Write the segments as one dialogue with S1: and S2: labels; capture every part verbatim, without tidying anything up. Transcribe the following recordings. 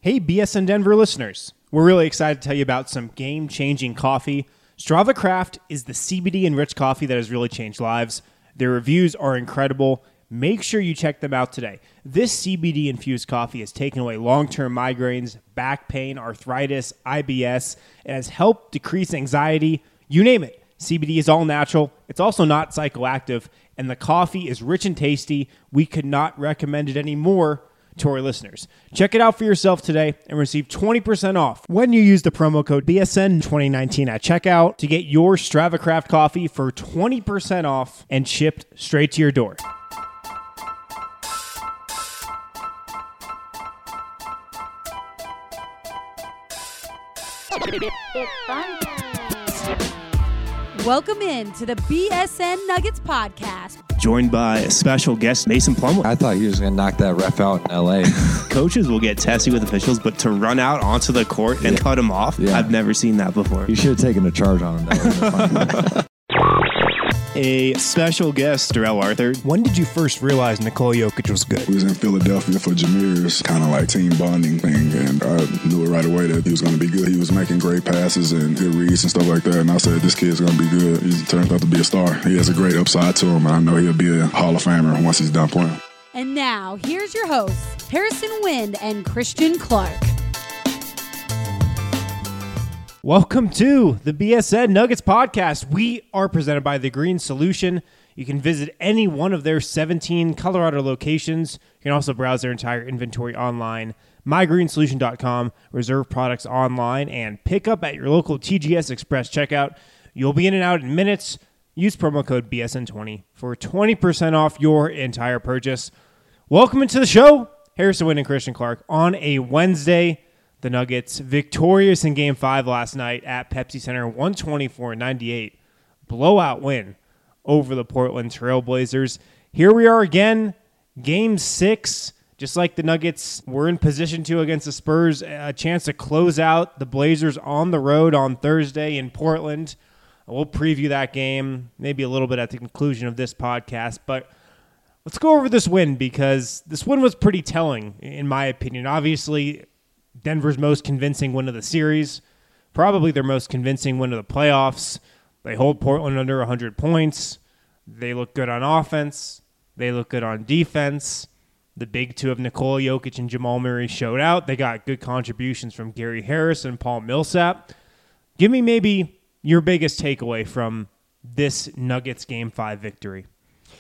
S1: Hey, B S N Denver listeners. We're really excited to tell you about some game-changing coffee. Strava Craft is the C B D-enriched coffee that has really changed lives. Their reviews are incredible. Make sure you check them out today. This C B D-infused coffee has taken away long-term migraines, back pain, arthritis, I B S. It has helped decrease anxiety. You name it. C B D is all natural. It's also not psychoactive. And the coffee is rich and tasty. We could not recommend it anymore to our listeners. Check it out for yourself today and receive twenty percent off when you use the promo code B S N twenty nineteen at checkout to get your Strava Craft coffee for twenty percent off and shipped straight to your door.
S2: It's fun.
S3: Welcome in to the B S N Nuggets podcast.
S1: Joined by a special guest, Mason Plumlee.
S4: I thought he was going to knock that ref out in L A.
S1: Coaches will get testy with officials, but to run out onto the court and
S4: Yeah.
S1: cut him off,
S4: Yeah.
S1: I've never seen that before.
S4: You should have taken a charge on him. That would have been fun.
S1: A special guest, Darrell Arthur. When did you first realize Nikola Jokic was good?
S5: We was in Philadelphia for Jameer's kind of like team bonding thing, and I knew it right away that he was going to be good. He was making great passes and good reads and stuff like that, and I said, this kid's going to be good. He turns out to be a star. He has a great upside to him, and I know he'll be a Hall of Famer once he's done playing.
S3: And now, here's your hosts, Harrison Wind and Christian Clark.
S1: Welcome to the B S N Nuggets podcast. We are presented by The Green Solution. You can visit any one of their seventeen Colorado locations. You can also browse their entire inventory online, my green solution dot com, reserve products online, and pick up at your local T G S Express checkout. You'll be in and out in minutes. Use promo code B S N twenty for twenty percent off your entire purchase. Welcome into the show, Harrison Wind and Christian Clark, on a Wednesday. The Nuggets victorious in Game five last night at Pepsi Center, one twenty-four ninety-eight. Blowout win over the Portland Trail Blazers. Here we are again, Game six. Just like the Nuggets were in position to against the Spurs, a chance to close out the Blazers on the road on Thursday in Portland. We'll preview that game maybe a little bit at the conclusion of this podcast, but let's go over this win because this win was pretty telling, in my opinion. Obviously, Denver's most convincing win of the series, probably their most convincing win of the playoffs. They hold Portland under one hundred points. They look good on offense. They look good on defense. The big two of Nikola Jokic and Jamal Murray showed out. They got good contributions from Gary Harris and Paul Millsap. Give me maybe your biggest takeaway from this Nuggets Game five victory.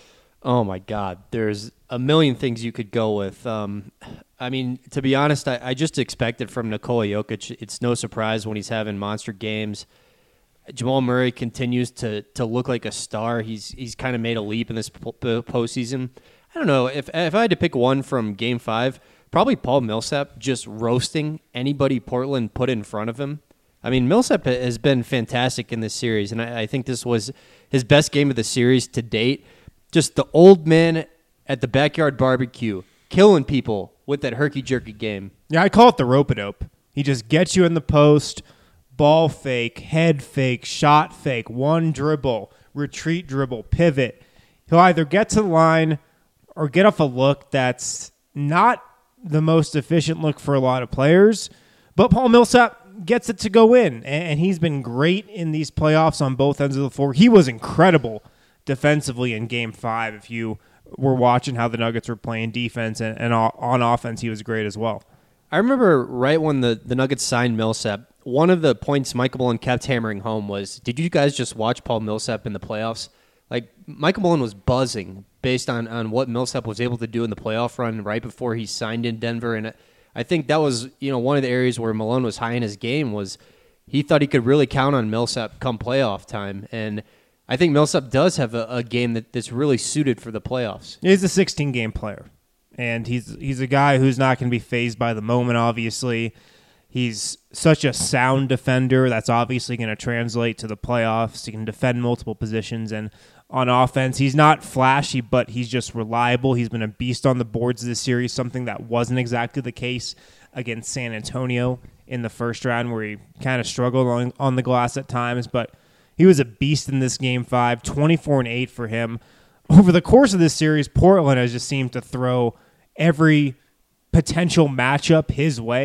S6: Oh, my God. There's a million things you could go with. Um, I mean, to be honest, I, I just expected from Nikola Jokic. It's no surprise when he's having monster games. Jamal Murray continues to to look like a star. He's he's kind of made a leap in this po- postseason. I don't know. If, if I had to pick one from Game five, probably Paul Millsap just roasting anybody Portland put in front of him. I mean, Millsap has been fantastic in this series, and I, I think this was his best game of the series to date. Just the old man at the backyard barbecue, killing people with that herky-jerky game.
S1: Yeah, I call it the rope-a-dope. He just gets you in the post, ball fake, head fake, shot fake, one dribble, retreat dribble, pivot. He'll either get to the line or get off a look that's not the most efficient look for a lot of players, but Paul Millsap gets it to go in, and he's been great in these playoffs on both ends of the floor. He was incredible defensively in Game five. If you were watching how the Nuggets were playing defense and, and on offense, he was great as well.
S6: I remember right when the, the Nuggets signed Millsap, one of the points Michael Malone kept hammering home was, did you guys just watch Paul Millsap in the playoffs? Like, Michael Malone was buzzing based on, on what Millsap was able to do in the playoff run right before he signed in Denver. And I think that was, you know, one of the areas where Malone was high in his game was he thought he could really count on Millsap come playoff time. And I think Millsap does have a, a game that, that's really suited for the playoffs.
S1: He's a sixteen-game player, and he's he's a guy who's not going to be fazed by the moment, obviously. He's such a sound defender. That's obviously going to translate to the playoffs. He can defend multiple positions, and on offense, he's not flashy, but he's just reliable. He's been a beast on the boards this series, something that wasn't exactly the case against San Antonio in the first round, where he kind of struggled on, on the glass at times, but he was a beast in this Game five, twenty-four and eight for him. Over the course of this series, Portland has just seemed to throw every potential matchup his way,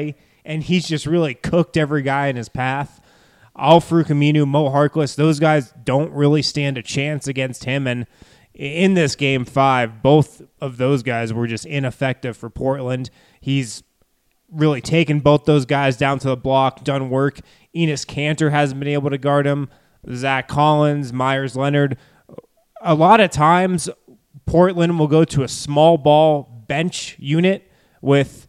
S1: and he's just really cooked every guy in his path. Al-Farouq Aminu, Mo Harkless, those guys don't really stand a chance against him. And in this game five, both of those guys were just ineffective for Portland. He's really taken both those guys down to the block, done work. Enes Kanter hasn't been able to guard him. Zach Collins, Myers Leonard. A lot of times, Portland will go to a small ball bench unit with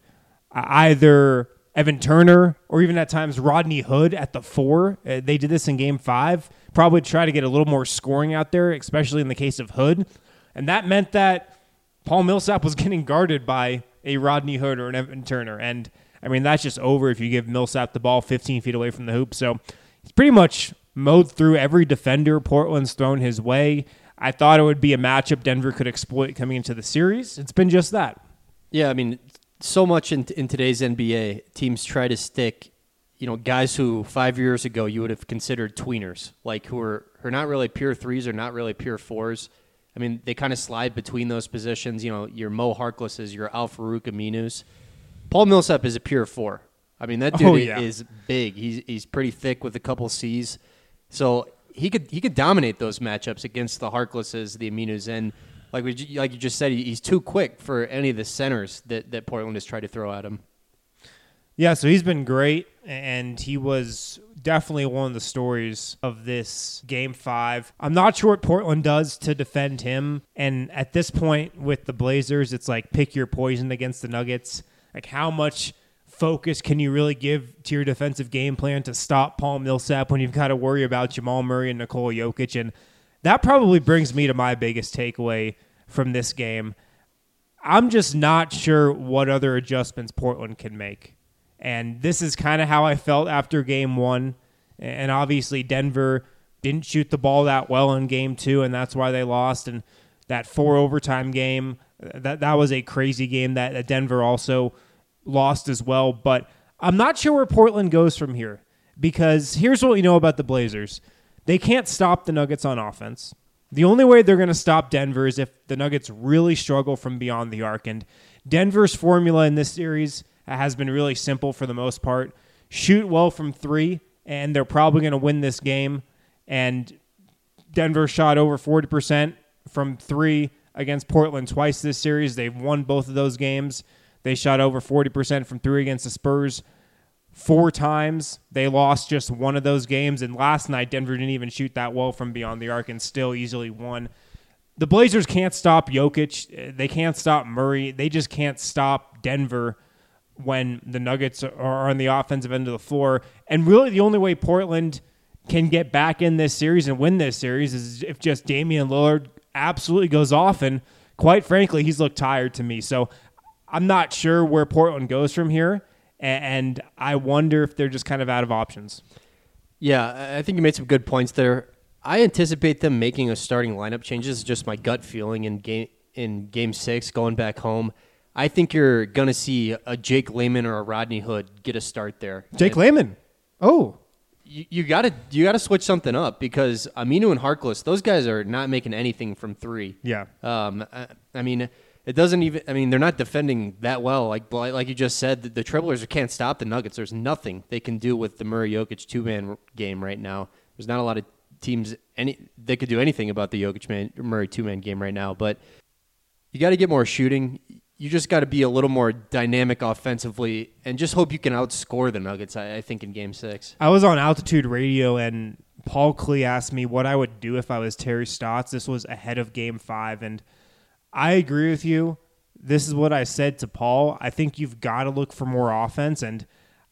S1: either Evan Turner or even at times Rodney Hood at the four. Uh, they did this in game five. Probably try to get a little more scoring out there, especially in the case of Hood. And that meant that Paul Millsap was getting guarded by a Rodney Hood or an Evan Turner. And, I mean, that's just over if you give Millsap the ball fifteen feet away from the hoop. So he's pretty much mowed through every defender Portland's thrown his way. I thought it would be a matchup Denver could exploit coming into the series. It's been just that.
S6: Yeah, I mean, so much in, in today's N B A, teams try to stick, you know, guys who five years ago you would have considered tweeners, like who are, who are not really pure threes or not really pure fours. I mean, they kind of slide between those positions. You know, your Mo Harklesses, your Al-Farouq Aminus. Paul Millsap is a pure four. I mean, that dude
S1: oh, yeah.
S6: is big. He's he's pretty thick with a couple C's, so he could he could dominate those matchups against the Harklesses, the Aminus, and like we like you just said, he's too quick for any of the centers that, that Portland has tried to throw at him.
S1: Yeah, so he's been great, and he was definitely one of the stories of this game five. I'm not sure what Portland does to defend him, and at this point with the Blazers, it's like pick your poison against the Nuggets. Like how much focus can you really give to your defensive game plan to stop Paul Millsap when you've got to worry about Jamal Murray and Nikola Jokic? And that probably brings me to my biggest takeaway from this game. I'm just not sure what other adjustments Portland can make. And this is kind of how I felt after game one. And obviously Denver didn't shoot the ball that well in game two, and that's why they lost. And that four overtime game, that, that was a crazy game that, that Denver also lost as well. But I'm not sure where Portland goes from here, because here's what we know about the Blazers. They can't stop the Nuggets on offense. The only way they're going to stop Denver is if the Nuggets really struggle from beyond the arc. And Denver's formula in this series has been really simple for the most part. Shoot well from three, and they're probably going to win this game. And Denver shot over forty percent from three against Portland twice this series. They've won both of those games. They shot over forty percent from three against the Spurs four times. They lost just one of those games. And last night, Denver didn't even shoot that well from beyond the arc and still easily won. The Blazers can't stop Jokic. They can't stop Murray. They just can't stop Denver when the Nuggets are on the offensive end of the floor. And really the only way Portland can get back in this series and win this series is if just Damian Lillard absolutely goes off. And quite frankly, he's looked tired to me. So I'm not sure where Portland goes from here. And I wonder if they're just kind of out of options.
S6: Yeah, I think you made some good points there. I anticipate them making a starting lineup change. This is just my gut feeling in game in game six, going back home. I think you're going to see a Jake Layman or a Rodney Hood get a start there.
S1: Jake
S6: and
S1: Layman. Oh.
S6: You, you got to you got to switch something up, because Aminu and Harkless, those guys are not making anything from three.
S1: Yeah.
S6: Um. I, I mean, it doesn't even. I mean, they're not defending that well. Like like you just said, the, the Trailblazers can't stop the Nuggets. There's nothing they can do with the Murray Jokic two man game right now. There's not a lot of teams any they could do anything about the Jokic man Murray two man game right now. But you got to get more shooting. You just got to be a little more dynamic offensively and just hope you can outscore the Nuggets, I, I think, in Game six.
S1: I was on Altitude Radio, and Paul Klee asked me what I would do if I was Terry Stotts. This was ahead of Game five, and I agree with you. This is what I said to Paul. I think you've got to look for more offense, and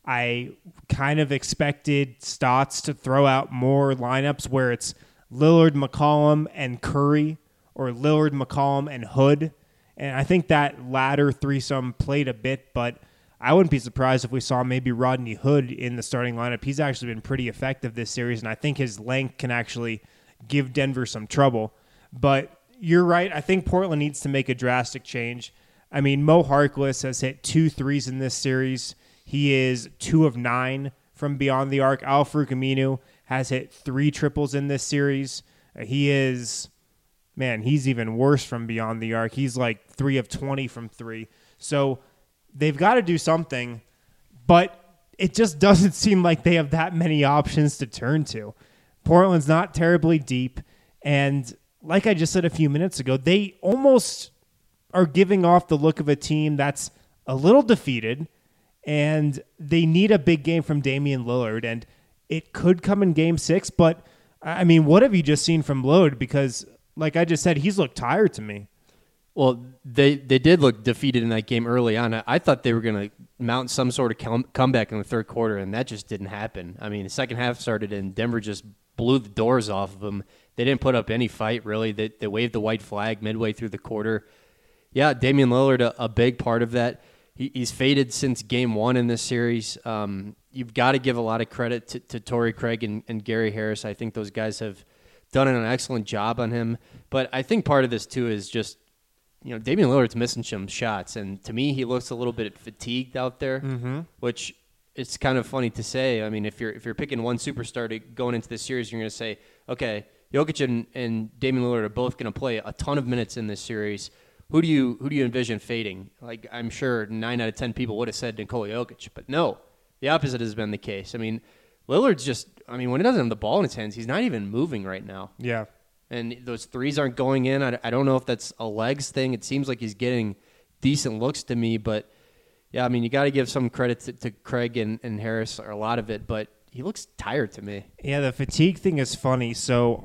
S1: I kind of expected Stotts to throw out more lineups where it's Lillard, McCollum, and Curry, or Lillard, McCollum, and Hood. And I think that latter threesome played a bit, but I wouldn't be surprised if we saw maybe Rodney Hood in the starting lineup. He's actually been pretty effective this series, and I think his length can actually give Denver some trouble. But you're right. I think Portland needs to make a drastic change. I mean, Mo Harkless has hit two threes in this series. He is two of nine from beyond the arc. Al-Farouq Aminu has hit three triples in this series. Uh, he is... Man, he's even worse from beyond the arc. He's like three of twenty from three. So they've got to do something. But it just doesn't seem like they have that many options to turn to. Portland's not terribly deep, and like I just said a few minutes ago, they almost are giving off the look of a team that's a little defeated, and they need a big game from Damian Lillard, and it could come in game six, but I mean, what have you just seen from Lillard? Because like I just said, he's looked tired to me.
S6: Well, they, they did look defeated in that game early on. I, I thought they were going to mount some sort of com- comeback in the third quarter, and that just didn't happen. I mean, the second half started, and Denver just blew the doors off of them. They didn't put up any fight, really. They, they waved the white flag midway through the quarter. Yeah, Damian Lillard, a, a big part of that. He, he's faded since game one in this series. Um, you've got to give a lot of credit to, to Torrey Craig and, and Gary Harris. I think those guys have done an excellent job on him. But I think part of this, too, is just, you know, Damian Lillard's missing some shots. And to me, he looks a little bit fatigued out there, mm-hmm. which it's kind of funny to say. I mean, if you're if you're picking one superstar to going into this series, you're going to say, okay, Jokic and, and Damian Lillard are both going to play a ton of minutes in this series. Who do you who do you envision fading? Like, I'm sure nine out of ten people would have said Nikola Jokic, but no, the opposite has been the case. I mean, Lillard's just, I mean, when he doesn't have the ball in his hands, he's not even moving right now.
S1: Yeah.
S6: And those threes aren't going in. I, I don't know if that's a legs thing. It seems like he's getting decent looks to me, but yeah, I mean, you got to give some credit to, to Craig and, and Harris, or a lot of it, but he looks tired to me.
S1: Yeah, the fatigue thing is funny. So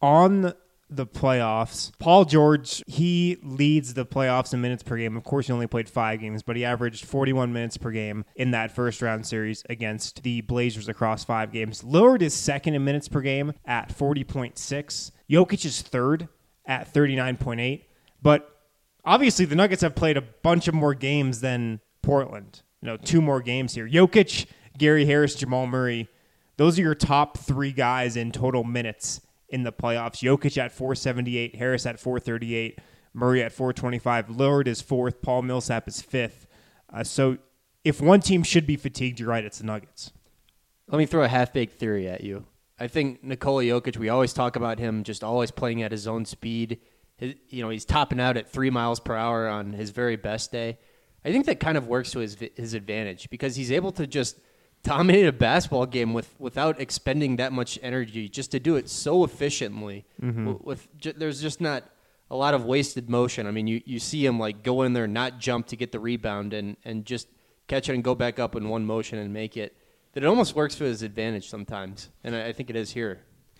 S1: on the playoffs, Paul George, he leads the playoffs in minutes per game. Of course, he only played five games, but he averaged forty-one minutes per game in that first round series against the Blazers across five games. Lillard is second in minutes per game at forty point six. Jokic is third at thirty-nine point eight. But obviously, the Nuggets have played a bunch of more games than Portland. You know, two more games here. Jokic, Gary Harris, Jamal Murray, those are your top three guys in total minutes in the playoffs. Jokic at four seventy-eight, Harris at four thirty-eight, Murray at four twenty-five. Lillard is fourth, Paul Millsap is fifth. Uh, so if one team should be fatigued, you're right, it's the Nuggets.
S6: Let me throw a half-baked theory at you. I think Nikola Jokic, we always talk about him just always playing at his own speed. His, you know, he's topping out at three miles per hour on his very best day. I think that kind of works to his his advantage because he's able to just dominate a basketball game with without expending that much energy, just to do it so efficiently. Mm-hmm. With, with j- there's just not a lot of wasted motion. I mean, you, you see him like go in there, not jump to get the rebound, and and just catch it and go back up in one motion and make it. That it almost works to his advantage sometimes, and I, I think it is here.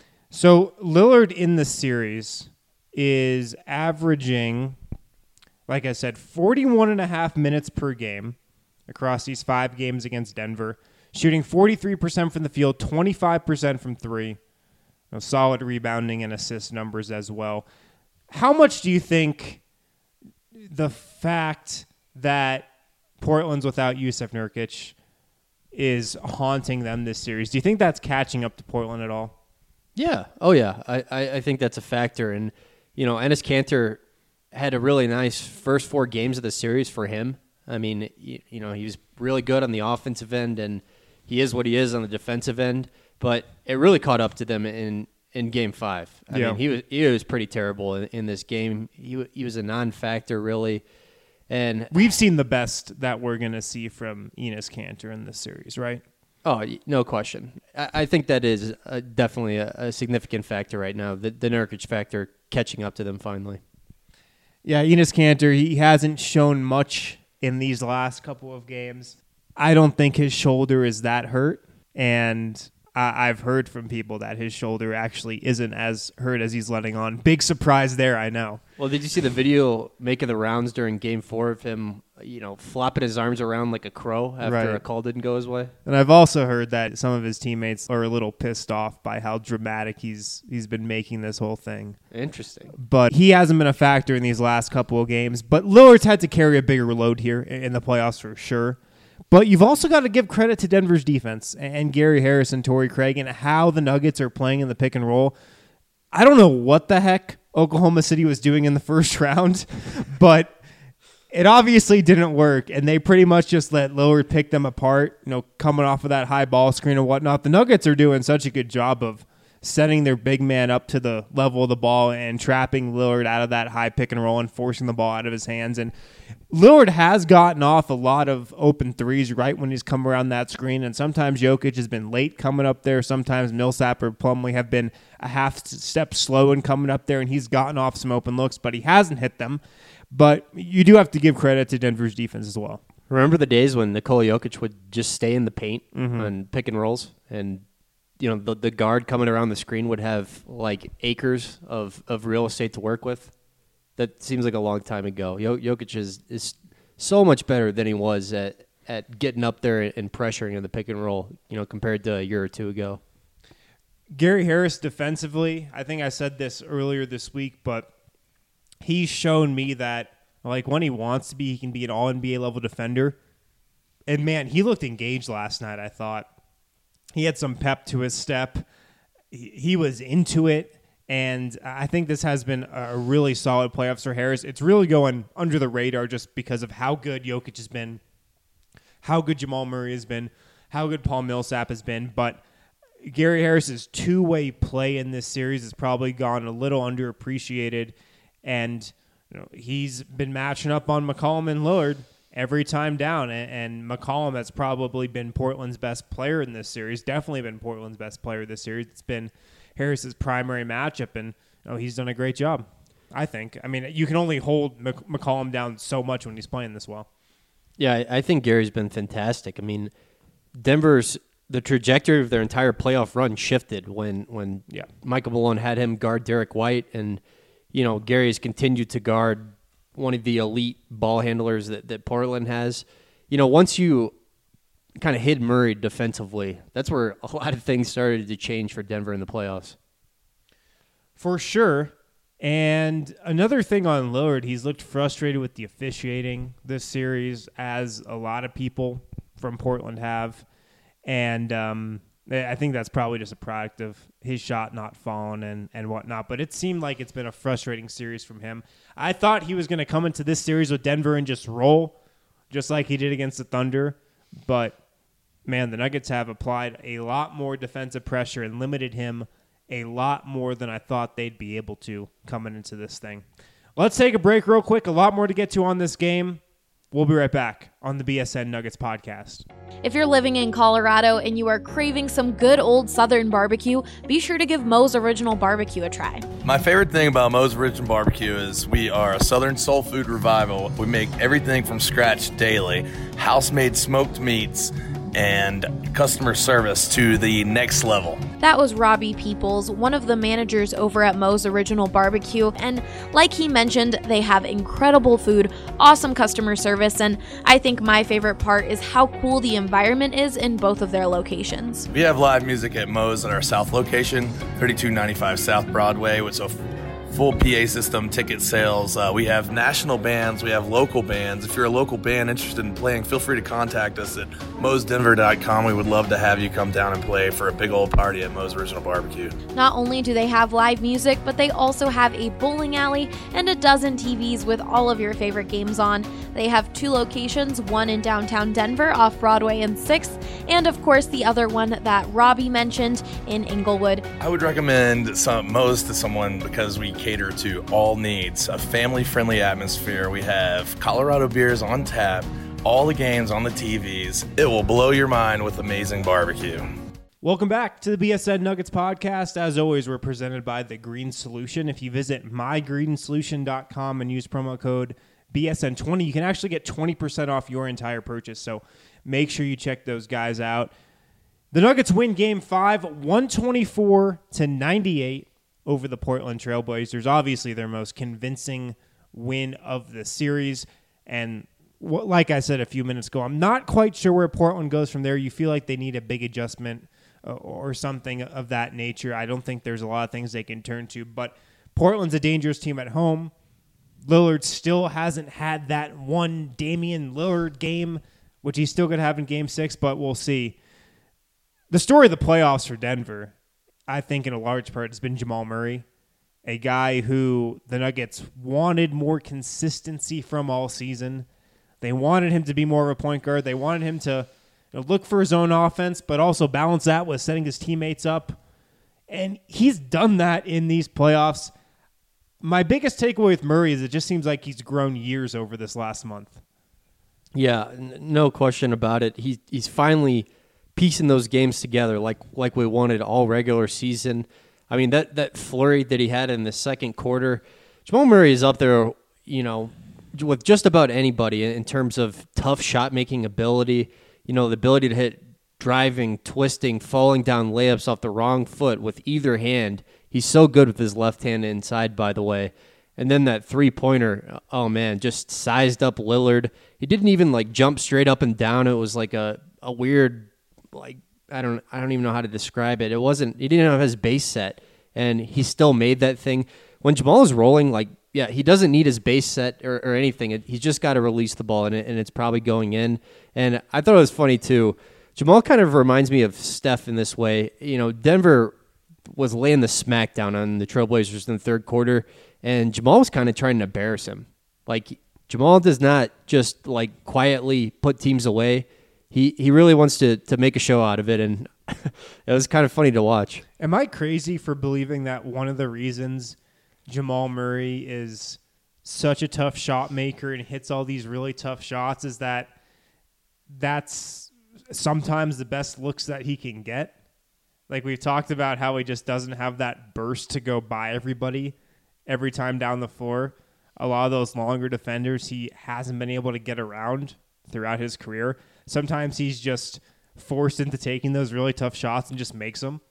S1: So Lillard in the series is averaging, like I said, forty-one and a half minutes per game across these five games against Denver, shooting forty-three percent from the field, twenty-five percent from three. You know, solid rebounding and assist numbers as well. How much do you think the fact that Portland's without Jusuf Nurkic is haunting them this series? Do you think that's catching up to Portland at all?
S6: Yeah. Oh, yeah. I, I, I think that's a factor. And, you know, Enes Kanter had a really nice first four games of the series for him. I mean, you, you know, he was really good on the offensive end, and he is what he is on the defensive end. But it really caught up to them in, in Game Five. I
S1: yeah.
S6: mean, he was he was pretty terrible in, in this game. He he was a non-factor, really. And
S1: we've seen the best that we're going to see from Enes Kanter in this series, right?
S6: Oh, no question. I, I think that is a, definitely a, a significant factor right now, the, the Nurkic factor catching up to them finally.
S1: Yeah, Enes Kanter, he hasn't shown much in these last couple of games. I don't think his shoulder is that hurt, and I- I've heard from people that his shoulder actually isn't as hurt as he's letting on. Big surprise there, I know.
S6: Well, did you see the video making the rounds during Game Four of him, you know, flopping his arms around like a crow after
S1: right.
S6: a call didn't go his way?
S1: And I've also heard that some of his teammates are a little pissed off by how dramatic he's he's been making this whole thing.
S6: Interesting.
S1: But he hasn't been a factor in these last couple of games. But Lillard's had to carry a bigger load here in the playoffs for sure. But you've also got to give credit to Denver's defense and Gary Harris and Torrey Craig and how the Nuggets are playing in the pick and roll. I don't know what the heck Oklahoma City was doing in the first round, but it obviously didn't work, and they pretty much just let Lillard pick them apart, you know, coming off of that high ball screen and whatnot. The Nuggets are doing such a good job of setting their big man up to the level of the ball and trapping Lillard out of that high pick and roll and forcing the ball out of his hands. And Lillard has gotten off a lot of open threes right when he's come around that screen, and sometimes Jokic has been late coming up there. Sometimes Millsap or Plumlee have been a half step slow in coming up there, and he's gotten off some open looks, but he hasn't hit them. But you do have to give credit to Denver's defense as well.
S6: Remember the days when Nikola Jokic would just stay in the paint
S1: Mm-hmm.
S6: and pick and rolls, and you know the, the guard coming around the screen would have like acres of, of real estate to work with? That seems like a long time ago. Jokic is, is so much better than he was at, at getting up there and pressuring in the pick and roll, you know, compared to a year or two ago.
S1: Gary Harris defensively, I think I said this earlier this week, but he's shown me that like when he wants to be, he can be an all N B A level defender. And man, he looked engaged last night, I thought. He had some pep to his step. He, he was into it. And I think this has been a really solid playoffs for Harris. It's really going under the radar just because of how good Jokic has been, how good Jamal Murray has been, how good Paul Millsap has been. But Gary Harris's two-way play in this series has probably gone a little underappreciated. And you know, he's been matching up on McCollum and Lillard every time down. And, and McCollum has probably been Portland's best player in this series, definitely been Portland's best player this series. It's been Harris's primary matchup, and you know, he's done a great job, I think. I mean, you can only hold Mc- McCollum down so much when he's playing this well.
S6: Yeah, I, I think Gary's been fantastic. I mean, Denver's the trajectory of their entire playoff run shifted when when
S1: Yeah.
S6: Michael Malone had him guard Derek White, and you know Gary's continued to guard one of the elite ball handlers that, that Portland has. You know, once you kind of hid Murray defensively, that's where a lot of things started to change for Denver in the playoffs.
S1: For sure. And another thing on Lillard, he's looked frustrated with the officiating this series, as a lot of people from Portland have. And um, I think that's probably just a product of his shot not falling and, and whatnot. But it seemed like it's been a frustrating series from him. I thought he was going to come into this series with Denver and just roll, just like he did against the Thunder. But man, the Nuggets have applied a lot more defensive pressure and limited him a lot more than I thought they'd be able to coming into this thing. Let's take a break real quick. A lot more to get to on this game. We'll be right back on the B S N Nuggets podcast.
S2: If you're living in Colorado and you are craving some good old Southern barbecue, be sure to give Moe's Original Barbecue a try.
S7: My favorite thing about Moe's Original Barbecue is we are a Southern soul food revival. We make everything from scratch daily, house-made smoked meats, and customer service to the next level.
S2: That was Robbie Peoples, one of the managers over at Moe's Original Barbecue, and like he mentioned, they have incredible food, awesome customer service, and I think my favorite part is how cool the environment is in both of their locations.
S7: We have live music at Moe's at our South location, thirty-two ninety-five South Broadway, with a full P A system, ticket sales. Uh, we have national bands. We have local bands. If you're a local band interested in playing, feel free to contact us at moes denver dot com. We would love to have you come down and play for a big old party at Moe's Original Barbecue.
S2: Not only do they have live music, but they also have a bowling alley and a dozen T Vs with all of your favorite games on. They have two locations, one in downtown Denver off Broadway and sixth, and of course the other one that Robbie mentioned in Inglewood.
S7: I would recommend some Moe's to someone because we cater to all needs, a family-friendly atmosphere. We have Colorado beers on tap, all the games on the T Vs. It will blow your mind with amazing barbecue.
S1: Welcome back to the B S N Nuggets podcast. As always, we're presented by The Green Solution. If you visit my green solution dot com and use promo code B S N twenty, you can actually get twenty percent off your entire purchase. So make sure you check those guys out. The Nuggets win game five, one twenty-four to ninety-eight over the Portland Trailblazers. Obviously their most convincing win of the series. And what, like I said a few minutes ago, I'm not quite sure where Portland goes from there. You feel like they need a big adjustment uh, or something of that nature. I don't think there's a lot of things they can turn to, but Portland's a dangerous team at home. Lillard still hasn't had that one Damian Lillard game, which he's still going to have in game six, but we'll see. The story of the playoffs for Denver, I think in a large part, has been Jamal Murray, a guy who the Nuggets wanted more consistency from all season. They wanted him to be more of a point guard. They wanted him to you know, look for his own offense, but also balance that with setting his teammates up. And he's done that in these playoffs. My biggest takeaway with Murray is it just seems like he's grown years over this last month.
S6: Yeah, n- no question about it. He, he's finally piecing those games together like like we wanted all regular season. I mean, that, that flurry that he had in the second quarter, Jamal Murray is up there, you know, with just about anybody in terms of tough shot-making ability, you know, the ability to hit driving, twisting, falling down layups off the wrong foot with either hand. He's so good with his left hand inside, by the way. And then that three-pointer, oh, man, just sized up Lillard. He didn't even, like, jump straight up and down. It was like a, a weird, like, I don't I don't even know how to describe it. It wasn't, he didn't have his base set, and he still made that thing. When Jamal is rolling, like, yeah, he doesn't need his base set or, or anything. It, he's just got to release the ball, and, it, and it's probably going in. And I thought it was funny, too. Jamal kind of reminds me of Steph in this way. You know, Denver was laying the smackdown on the Trailblazers in the third quarter, and Jamal was kind of trying to embarrass him. Like, Jamal does not just, like, quietly put teams away. He he really wants to to make a show out of it, and it was kind of funny to watch.
S1: Am I crazy for believing that one of the reasons Jamal Murray is such a tough shot maker and hits all these really tough shots is that that's sometimes the best looks that he can get? Like, we've talked about how he just doesn't have that burst to go by everybody every time down the floor. A lot of those longer defenders he hasn't been able to get around throughout his career. Sometimes he's just forced into taking those really tough shots and just makes them.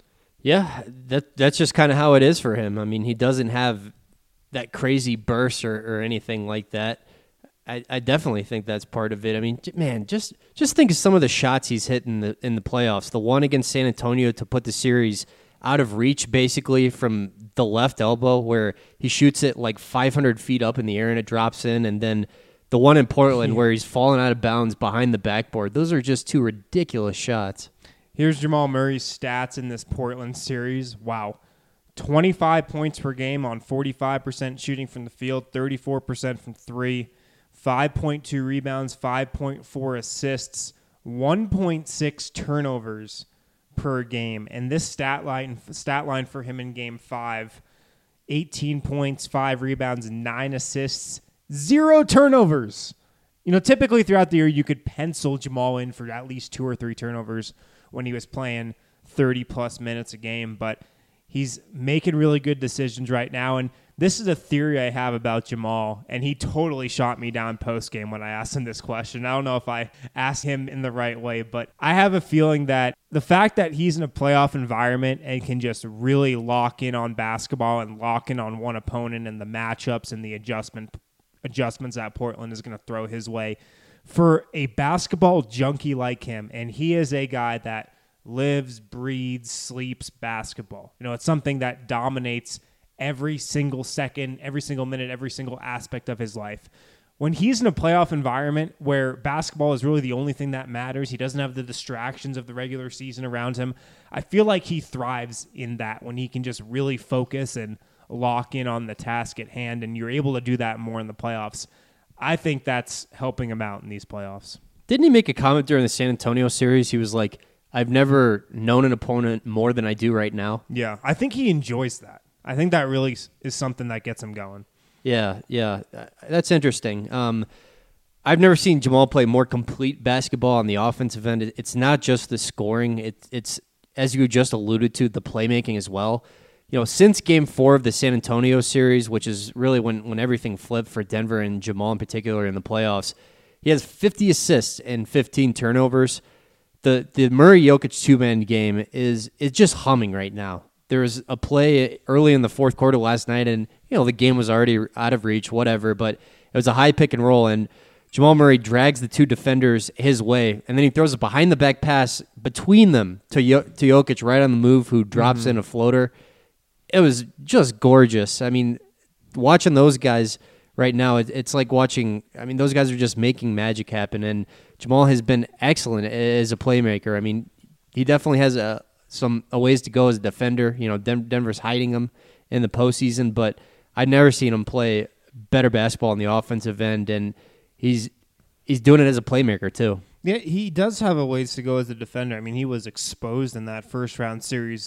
S6: Yeah, that that's just kind of how it is for him. I mean, he doesn't have that crazy burst or, or anything like that. I, I definitely think that's part of it. I mean, man, just just think of some of the shots he's hit in the in the playoffs. The one against San Antonio to put the series out of reach, basically from the left elbow, where he shoots it like five hundred feet up in the air and it drops in, and then the one in Portland where he's falling out of bounds behind the backboard. Those are just two ridiculous shots.
S1: Here's Jamal Murray's stats in this Portland series. Wow. twenty-five points per game on forty-five percent shooting from the field, thirty-four percent from three, five point two rebounds, five point four assists, one point six turnovers per game. And this stat line stat line for him in game five, eighteen points, five rebounds, nine assists, zero turnovers. You know, typically throughout the year, you could pencil Jamal in for at least two or three turnovers when he was playing thirty-plus minutes a game, but he's making really good decisions right now. And this is a theory I have about Jamal, and he totally shot me down post-game when I asked him this question. I don't know if I asked him in the right way, but I have a feeling that the fact that he's in a playoff environment and can just really lock in on basketball and lock in on one opponent and the matchups and the adjustment adjustments that Portland is going to throw his way, for a basketball junkie like him, and he is a guy that lives, breathes, sleeps basketball. You know, it's something that dominates every single second, every single minute, every single aspect of his life. When he's in a playoff environment where basketball is really the only thing that matters, he doesn't have the distractions of the regular season around him, I feel like he thrives in that when he can just really focus and lock in on the task at hand, and you're able to do that more in the playoffs. I think that's helping him out in these playoffs.
S6: Didn't he make a comment during the San Antonio series? He was like, I've never known an opponent more than I do right now.
S1: Yeah, I think he enjoys that. I think that really is something that gets him going.
S6: Yeah, yeah. That's interesting. Um, I've never seen Jamal play more complete basketball on the offensive end. It's not just the scoring. It, it's, as you just alluded to, the playmaking as well. You know, since game four of the San Antonio series, which is really when, when everything flipped for Denver and Jamal in particular in the playoffs, he has fifty assists and fifteen turnovers. The the Murray-Jokic two-man game is is just humming right now. There was a play early in the fourth quarter last night, and you know the game was already out of reach, whatever, but it was a high pick and roll, and Jamal Murray drags the two defenders his way, and then he throws a behind-the-back pass between them to, Yo- to Jokic right on the move, who drops mm-hmm. in a floater. It was just gorgeous. I mean, watching those guys right now, it, it's like watching, I mean, those guys are just making magic happen, and Jamal has been excellent as a playmaker. I mean, he definitely has a, some a ways to go as a defender. You know, Den- Denver's hiding him in the postseason, but I've never seen him play better basketball on the offensive end, and he's he's doing it as a playmaker too.
S1: Yeah, he does have a ways to go as a defender. I mean, he was exposed in that first round series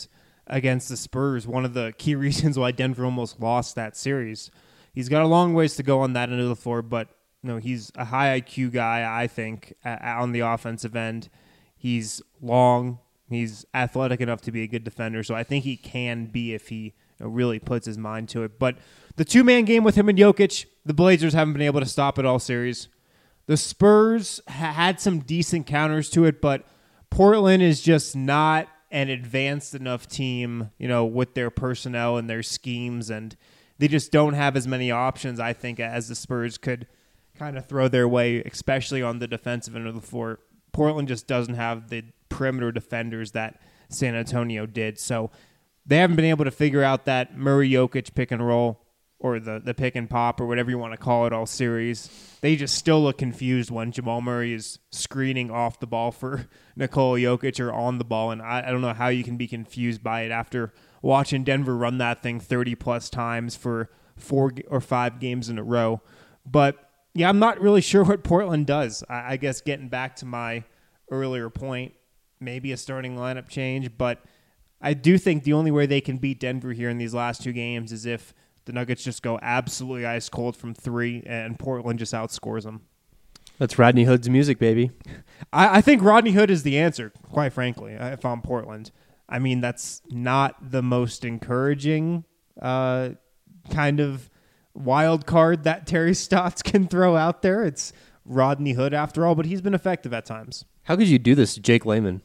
S1: against the Spurs, one of the key reasons why Denver almost lost that series. He's got a long ways to go on that end of the floor, but you know, he's a high I Q guy, I think, uh, on the offensive end. He's long. He's athletic enough to be a good defender, so I think he can be if he you know, really puts his mind to it. But the two-man game with him and Jokic, the Blazers haven't been able to stop it all series. The Spurs ha- had some decent counters to it, but Portland is just not an advanced enough team, you know, with their personnel and their schemes, and they just don't have as many options, I think, as the Spurs could kind of throw their way, especially on the defensive end of the floor. Portland just doesn't have the perimeter defenders that San Antonio did, so they haven't been able to figure out that Murray-Jokic pick and roll or the, the pick and pop or whatever you want to call it all series. They just still look confused when Jamal Murray is screening off the ball for Nikola Jokic or on the ball, and I, I don't know how you can be confused by it after watching Denver run that thing thirty-plus times for four or five games in a row. But, yeah, I'm not really sure what Portland does. I, I guess getting back to my earlier point, maybe a starting lineup change, but I do think the only way they can beat Denver here in these last two games is if the Nuggets just go absolutely ice cold from three and Portland just outscores them.
S6: That's Rodney Hood's music, baby.
S1: I, I think Rodney Hood is the answer, quite frankly, if I'm Portland. I mean, that's not the most encouraging uh, kind of wild card that Terry Stotts can throw out there. It's Rodney Hood after all, but he's been effective at times.
S6: How could you do this to Jake Layman?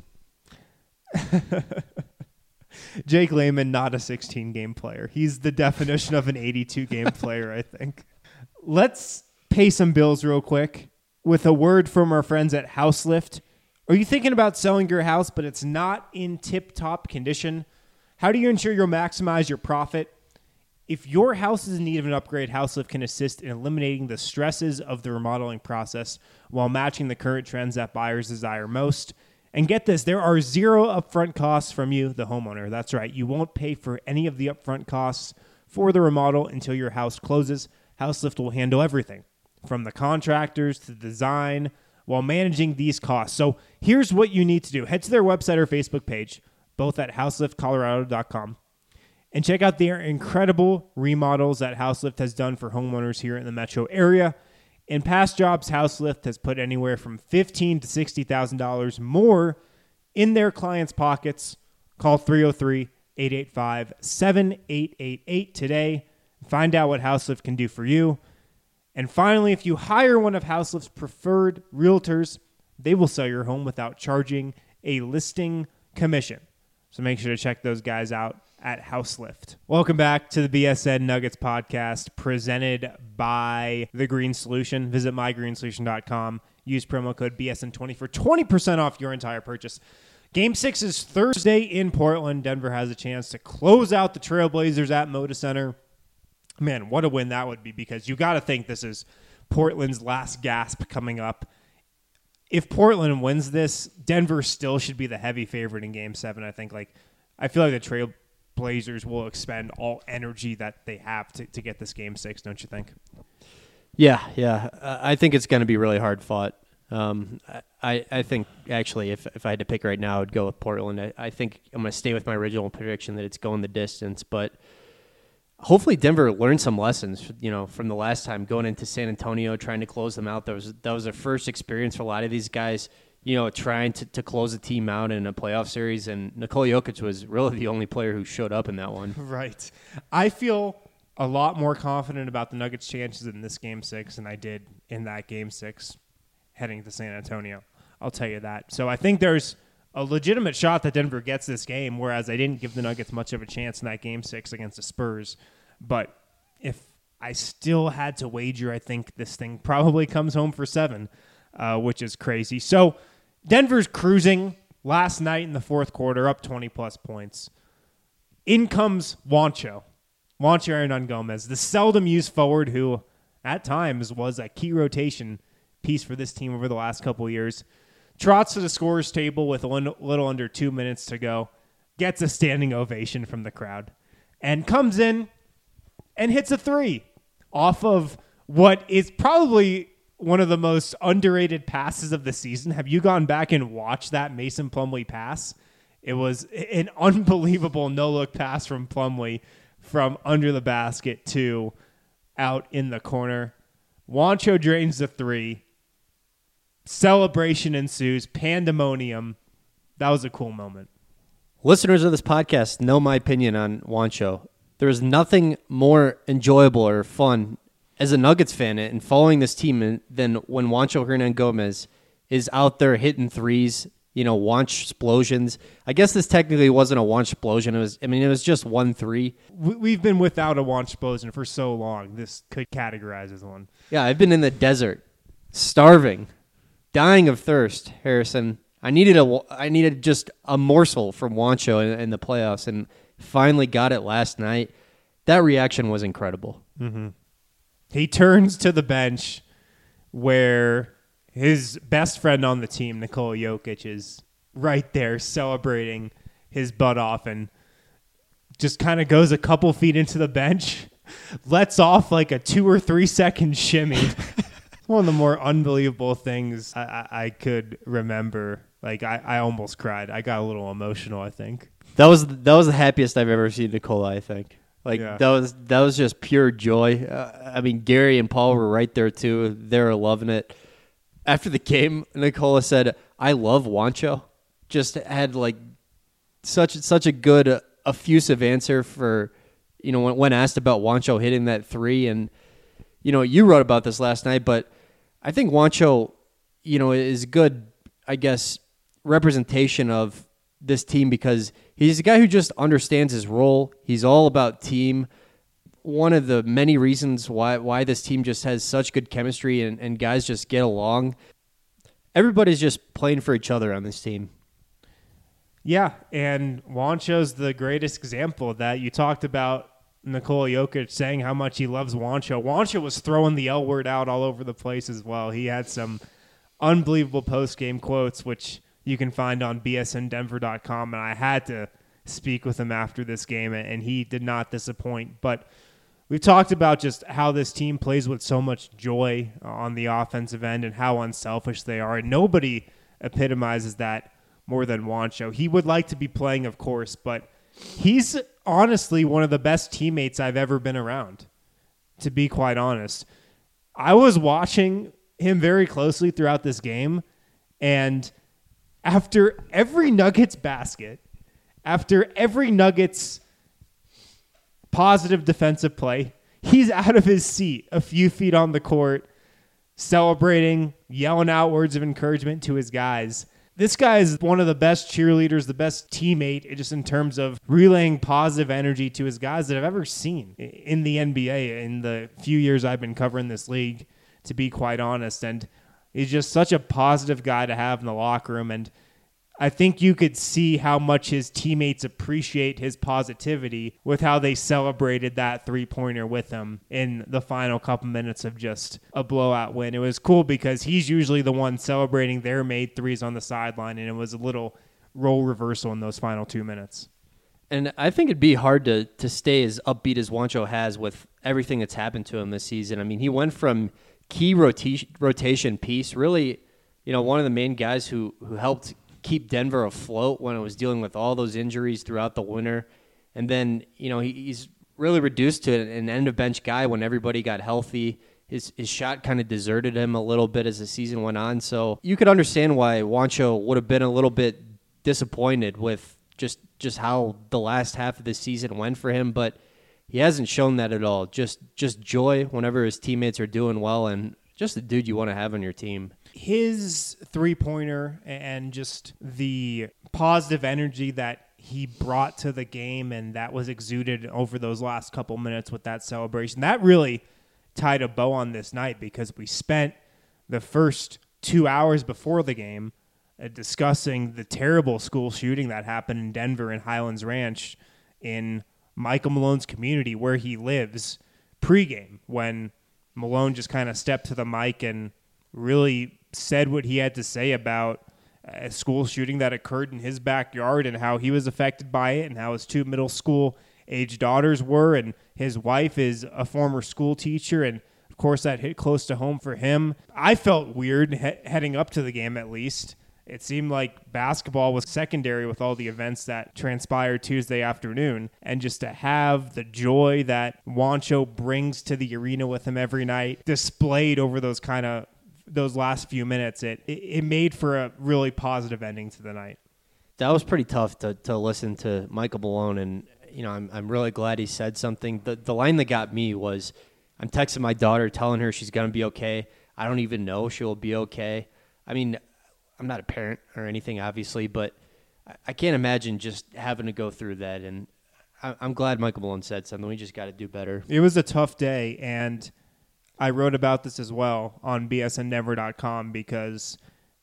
S1: Jake Layman, not a sixteen-game player. He's the definition of an eighty-two-game player, I think. Let's pay some bills real quick with a word from our friends at Houselift. Are you thinking about selling your house, but it's not in tip-top condition? How do you ensure you'll maximize your profit? If your house is in need of an upgrade, Houselift can assist in eliminating the stresses of the remodeling process while matching the current trends that buyers desire most. And get this, there are zero upfront costs from you, the homeowner. That's right. You won't pay for any of the upfront costs for the remodel until your house closes. Houselift will handle everything, from the contractors to the design, while managing these costs. So here's what you need to do. Head to their website or Facebook page, both at houselift colorado dot com, and check out their incredible remodels that Houselift has done for homeowners here in the metro area. In past jobs, Houselift has put anywhere from fifteen thousand dollars to sixty thousand dollars more in their clients' pockets. Call three oh three, eight eight five, seven eight eight eight today. Find out what Houselift can do for you. And finally, if you hire one of Houselift's preferred realtors, they will sell your home without charging a listing commission. So make sure to check those guys out at Houselift. Welcome back to the B S N Nuggets podcast presented by The Green Solution. Visit my green solution dot com. Use promo code B S N twenty for twenty percent off your entire purchase. Game six is Thursday in Portland. Denver has a chance to close out the Trailblazers at Moda Center. Man, what a win that would be, because you got to think this is Portland's last gasp coming up. If Portland wins this, Denver still should be the heavy favorite in Game seven. I think, like, I feel like the Trail Blazers will expend all energy that they have to, to get this game six, don't you think?
S6: Yeah, yeah. Uh, I think it's going to be really hard fought. Um, I, I think, actually, if if I had to pick right now, I would go with Portland. I, I think I'm going to stay with my original prediction that it's going the distance, but hopefully Denver learned some lessons, you know, from the last time going into San Antonio, trying to close them out. That was, that was their first experience for a lot of these guys, you know, trying to, to close a team out in a playoff series, and Nikola Jokic was really the only player who showed up in that one.
S1: Right. I feel a lot more confident about the Nuggets' chances in this Game six than I did in that Game six heading to San Antonio. I'll tell you that. So I think there's a legitimate shot that Denver gets this game, whereas I didn't give the Nuggets much of a chance in that Game six against the Spurs. But if I still had to wager, I think this thing probably comes home for seven, uh, which is crazy. So Denver's cruising last night in the fourth quarter, up twenty-plus points. In comes Juancho, Juancho Hernan-Gomez, the seldom-used forward who, at times, was a key rotation piece for this team over the last couple of years. Trots to the scorer's table with a little under two minutes to go, gets a standing ovation from the crowd, and comes in and hits a three off of what is probably one of the most underrated passes of the season. Have you gone back and watched that Mason Plumlee pass? It was an unbelievable no-look pass from Plumlee from under the basket to out in the corner. Juancho drains the three. Celebration ensues. Pandemonium. That was a cool moment.
S6: Listeners of this podcast know my opinion on Juancho. There is nothing more enjoyable or fun as a Nuggets fan in following this team than when Juancho Hernangomez is out there hitting threes, you know, Juanch explosions. I guess this technically wasn't a Juanch explosion. It was, I mean, it was just one three.
S1: We've been without a Juanch explosion for so long. This could categorize as one.
S6: Yeah, I've been in the desert, starving, dying of thirst, Harrison. I needed a, I needed just a morsel from Juancho in, in the playoffs, and finally got it last night. That reaction was incredible.
S1: Mm-hmm. He turns to the bench where his best friend on the team, Nikola Jokic, is right there celebrating his butt off and just kind of goes a couple feet into the bench, lets off like a two or three second shimmy. One of the more unbelievable things I, I, I could remember. Like, I, I almost cried. I got a little emotional, I think.
S6: That was that was the happiest I've ever seen Nikola, I think. Like,
S1: Yeah.
S6: that was that was just pure joy. Uh, I mean, Gary and Paul were right there, too. They were loving it. After the game, Nikola said, I love Juancho. Just had, like, such such a good, uh, effusive answer for, you know, when, when asked about Juancho hitting that three. And, you know, you wrote about this last night, but I think Juancho, you know, is good, I guess, representation of this team because he's a guy who just understands his role. He's all about team. One of the many reasons why why this team just has such good chemistry and, and guys just get along. Everybody's just playing for each other on this team.
S1: Yeah, and Juancho's the greatest example of that. You talked about Nikola Jokic saying how much he loves Juancho. Juancho was throwing the L word out all over the place as well. He had some unbelievable post-game quotes, which you can find on B S N Denver dot com, and I had to speak with him after this game, and he did not disappoint. But we've talked about just how this team plays with so much joy on the offensive end and how unselfish they are, and nobody epitomizes that more than Juancho. He would like to be playing, of course, but he's honestly one of the best teammates I've ever been around, to be quite honest. I was watching him very closely throughout this game, and after every Nuggets basket, after every Nuggets positive defensive play, he's out of his seat a few feet on the court, celebrating, yelling out words of encouragement to his guys. This guy is one of the best cheerleaders, the best teammate, just in terms of relaying positive energy to his guys that I've ever seen in the N B A in the few years I've been covering this league, to be quite honest. And he's just such a positive guy to have in the locker room. And I think you could see how much his teammates appreciate his positivity with how they celebrated that three-pointer with him in the final couple minutes of just a blowout win. It was cool because he's usually the one celebrating their made threes on the sideline, and it was a little role reversal in those final two minutes.
S6: And I think it'd be hard to to stay as upbeat as Juancho has with everything that's happened to him this season. I mean, he went from key rota- rotation piece, really, you know, one of the main guys who who helped keep Denver afloat when it was dealing with all those injuries throughout the winter. And then, you know, he, he's really reduced to an end-of-bench guy when everybody got healthy. His his shot kind of deserted him a little bit as the season went on. So you could understand why Juancho would have been a little bit disappointed with just, just how the last half of the season went for him. But he hasn't shown that at all. Just just joy whenever his teammates are doing well, and just the dude you want to have on your team.
S1: His three-pointer and just the positive energy that he brought to the game and that was exuded over those last couple minutes with that celebration, that really tied a bow on this night because we spent the first two hours before the game uh, discussing the terrible school shooting that happened in Denver in Highlands Ranch in Michael Malone's community where he lives pregame, when Malone just kind of stepped to the mic and really said what he had to say about a school shooting that occurred in his backyard and how he was affected by it and how his two middle school age daughters were, and his wife is a former school teacher, and of course that hit close to home for him. I felt weird he- heading up to the game, at least. it seemed like basketball was secondary with all the events that transpired Tuesday afternoon. And just to have the joy that Juancho brings to the arena with him every night displayed over those kind of those last few minutes, it, it it made for a really positive ending to the night.
S6: That was pretty tough to, to listen to Michael Malone, and you know I'm I'm really glad he said something. The the line that got me was, I'm texting my daughter telling her she's gonna be okay. I don't even know she'll be okay. I mean, I'm not a parent or anything, obviously, but I, I can't imagine just having to go through that. And I, I'm glad Michael Malone said something. We just got to do better.
S1: It was a tough day, and I wrote about this as well on B S N Denver dot com because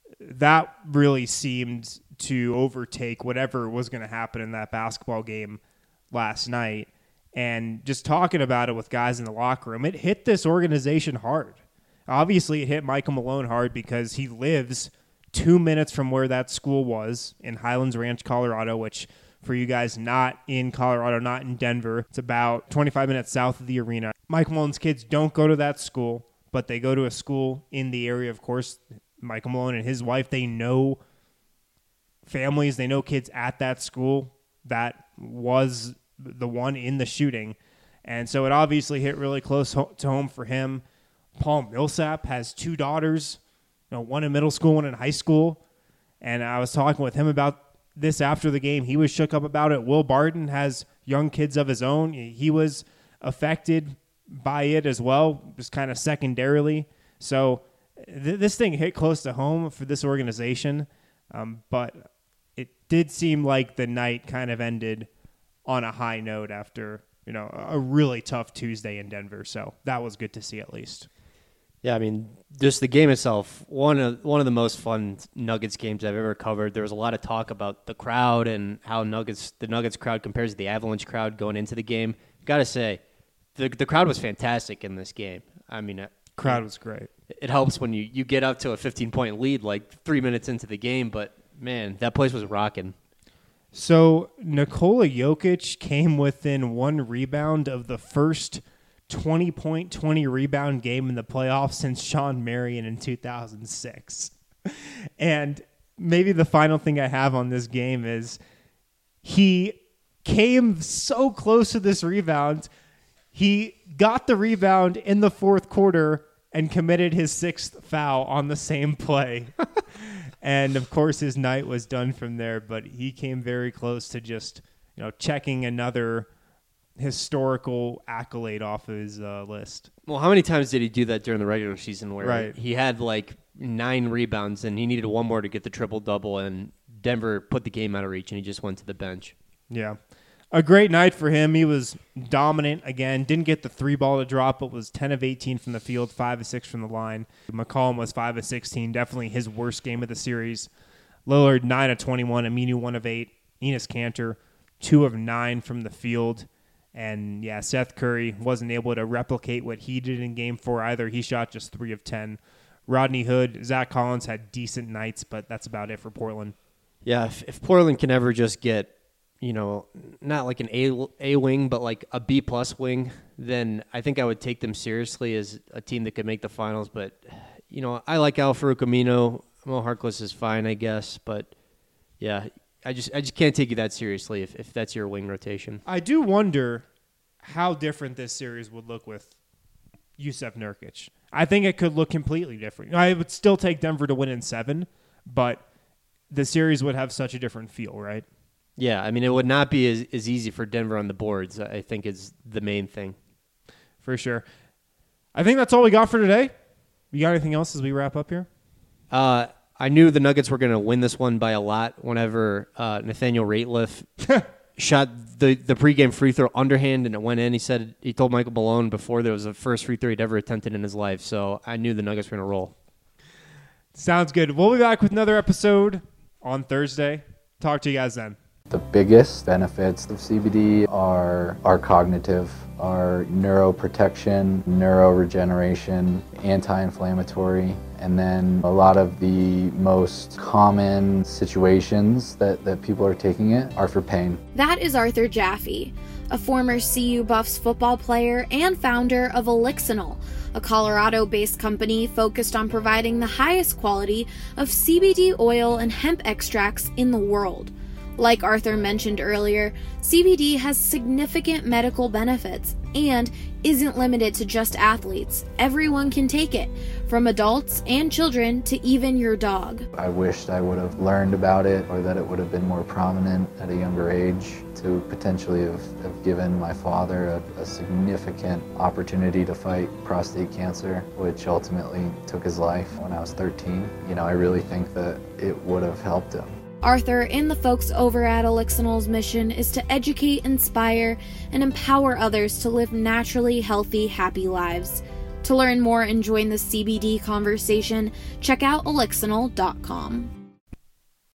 S1: that really seemed to overtake whatever was going to happen in that basketball game last night. And just talking about it with guys in the locker room, it hit this organization hard. Obviously, it hit Michael Malone hard because he lives two minutes from where that school was in Highlands Ranch, Colorado, which for you guys not in Colorado, not in Denver, it's about twenty-five minutes south of the arena. Michael Malone's kids don't go to that school, but they go to a school in the area, of course. Michael Malone and his wife, they know families, they know kids at that school that was the one in the shooting. And so it obviously hit really close ho- to home for him. Paul Millsap has two daughters, you know, one in middle school, one in high school. And I was talking with him about this after the game. He was shook up about it. Will Barton has young kids of his own. He was affected by it as well, just kind of secondarily. So th- this thing hit close to home for this organization. Um, but it did seem like the night kind of ended on a high note after, you know, a really tough Tuesday in Denver. So that was good to see at least.
S6: Yeah, I mean, just the game itself, one of one of the most fun Nuggets games I've ever covered. There was a lot of talk about the crowd and how Nuggets the Nuggets crowd compares to the Avalanche crowd going into the game. Got to say, the the crowd was fantastic in this game. I mean, it,
S1: crowd was great.
S6: It helps when you, you get up to a fifteen-point lead like three minutes into the game, but, man, that place was rocking.
S1: So Nikola Jokic came within one rebound of the first twenty-point, twenty-rebound game in the playoffs since Sean Marion in two thousand six. And maybe the final thing I have on this game is he came so close to this rebound. He got the rebound in the fourth quarter and committed his sixth foul on the same play. And, of course, his night was done from there, but he came very close to just, you know, checking another historical accolade off his uh, list.
S6: Well, how many times did he do that during the regular season where
S1: right.
S6: he had like nine rebounds and he needed one more to get the triple-double, and Denver put the game out of reach and he just went to the bench?
S1: Yeah. A great night for him. He was dominant again. Didn't get the three ball to drop, but was ten of eighteen from the field, five of six from the line. McCollum was five of sixteen, definitely his worst game of the series. Lillard, nine of twenty-one, Aminu, one of eight. Enes Kanter, two of nine from the field. And, yeah, Seth Curry wasn't able to replicate what he did in game four either. He shot just three of ten. Rodney Hood, Zach Collins had decent nights, but that's about it for Portland.
S6: Yeah, if, if Portland can ever just get, you know, not like an A, A wing, but like a B-plus wing, then I think I would take them seriously as a team that could make the finals. But, you know, I like Al-Farouq Aminu. Mo Harkless is fine, I guess. But, yeah, I just I just can't take you that seriously if, if that's your wing rotation.
S1: I do wonder how different this series would look with Jusuf Nurkic. I think it could look completely different. I would still take Denver to win in seven, but the series would have such a different feel, right?
S6: Yeah, I mean, it would not be as, as easy for Denver on the boards, I think is the main thing.
S1: For sure. I think that's all we got for today. You got anything else as we wrap up here?
S6: Uh, I knew the Nuggets were going to win this one by a lot whenever uh, Nathaniel Rateliff shot the, the pregame free throw underhand and it went in. He said he told Michael Malone before there was the first free throw he'd ever attempted in his life. So I knew the Nuggets were going to roll. Sounds good. We'll be back with another episode on Thursday. Talk to you guys then.
S8: The biggest benefits of C B D are, are cognitive, are neuroprotection, neuroregeneration, anti-inflammatory, and then a lot of the most common situations that, that people are taking it are for pain.
S2: That is Arthur Jaffe, a former C U Buffs football player and founder of Elixinol, a Colorado-based company focused on providing the highest quality of C B D oil and hemp extracts in the world. Like Arthur mentioned earlier, C B D has significant medical benefits and isn't limited to just athletes. Everyone can take it, from adults and children to even your dog.
S8: I wished I would have learned about it, or that it would have been more prominent at a younger age to potentially have, have given my father a, a significant opportunity to fight prostate cancer, which ultimately took his life when I was thirteen. You know, I really think that it would have helped him.
S2: Arthur and the folks over at Elixinol's mission is to educate, inspire, and empower others to live naturally healthy, happy lives. To learn more and join the C B D conversation, check out elixinol dot com.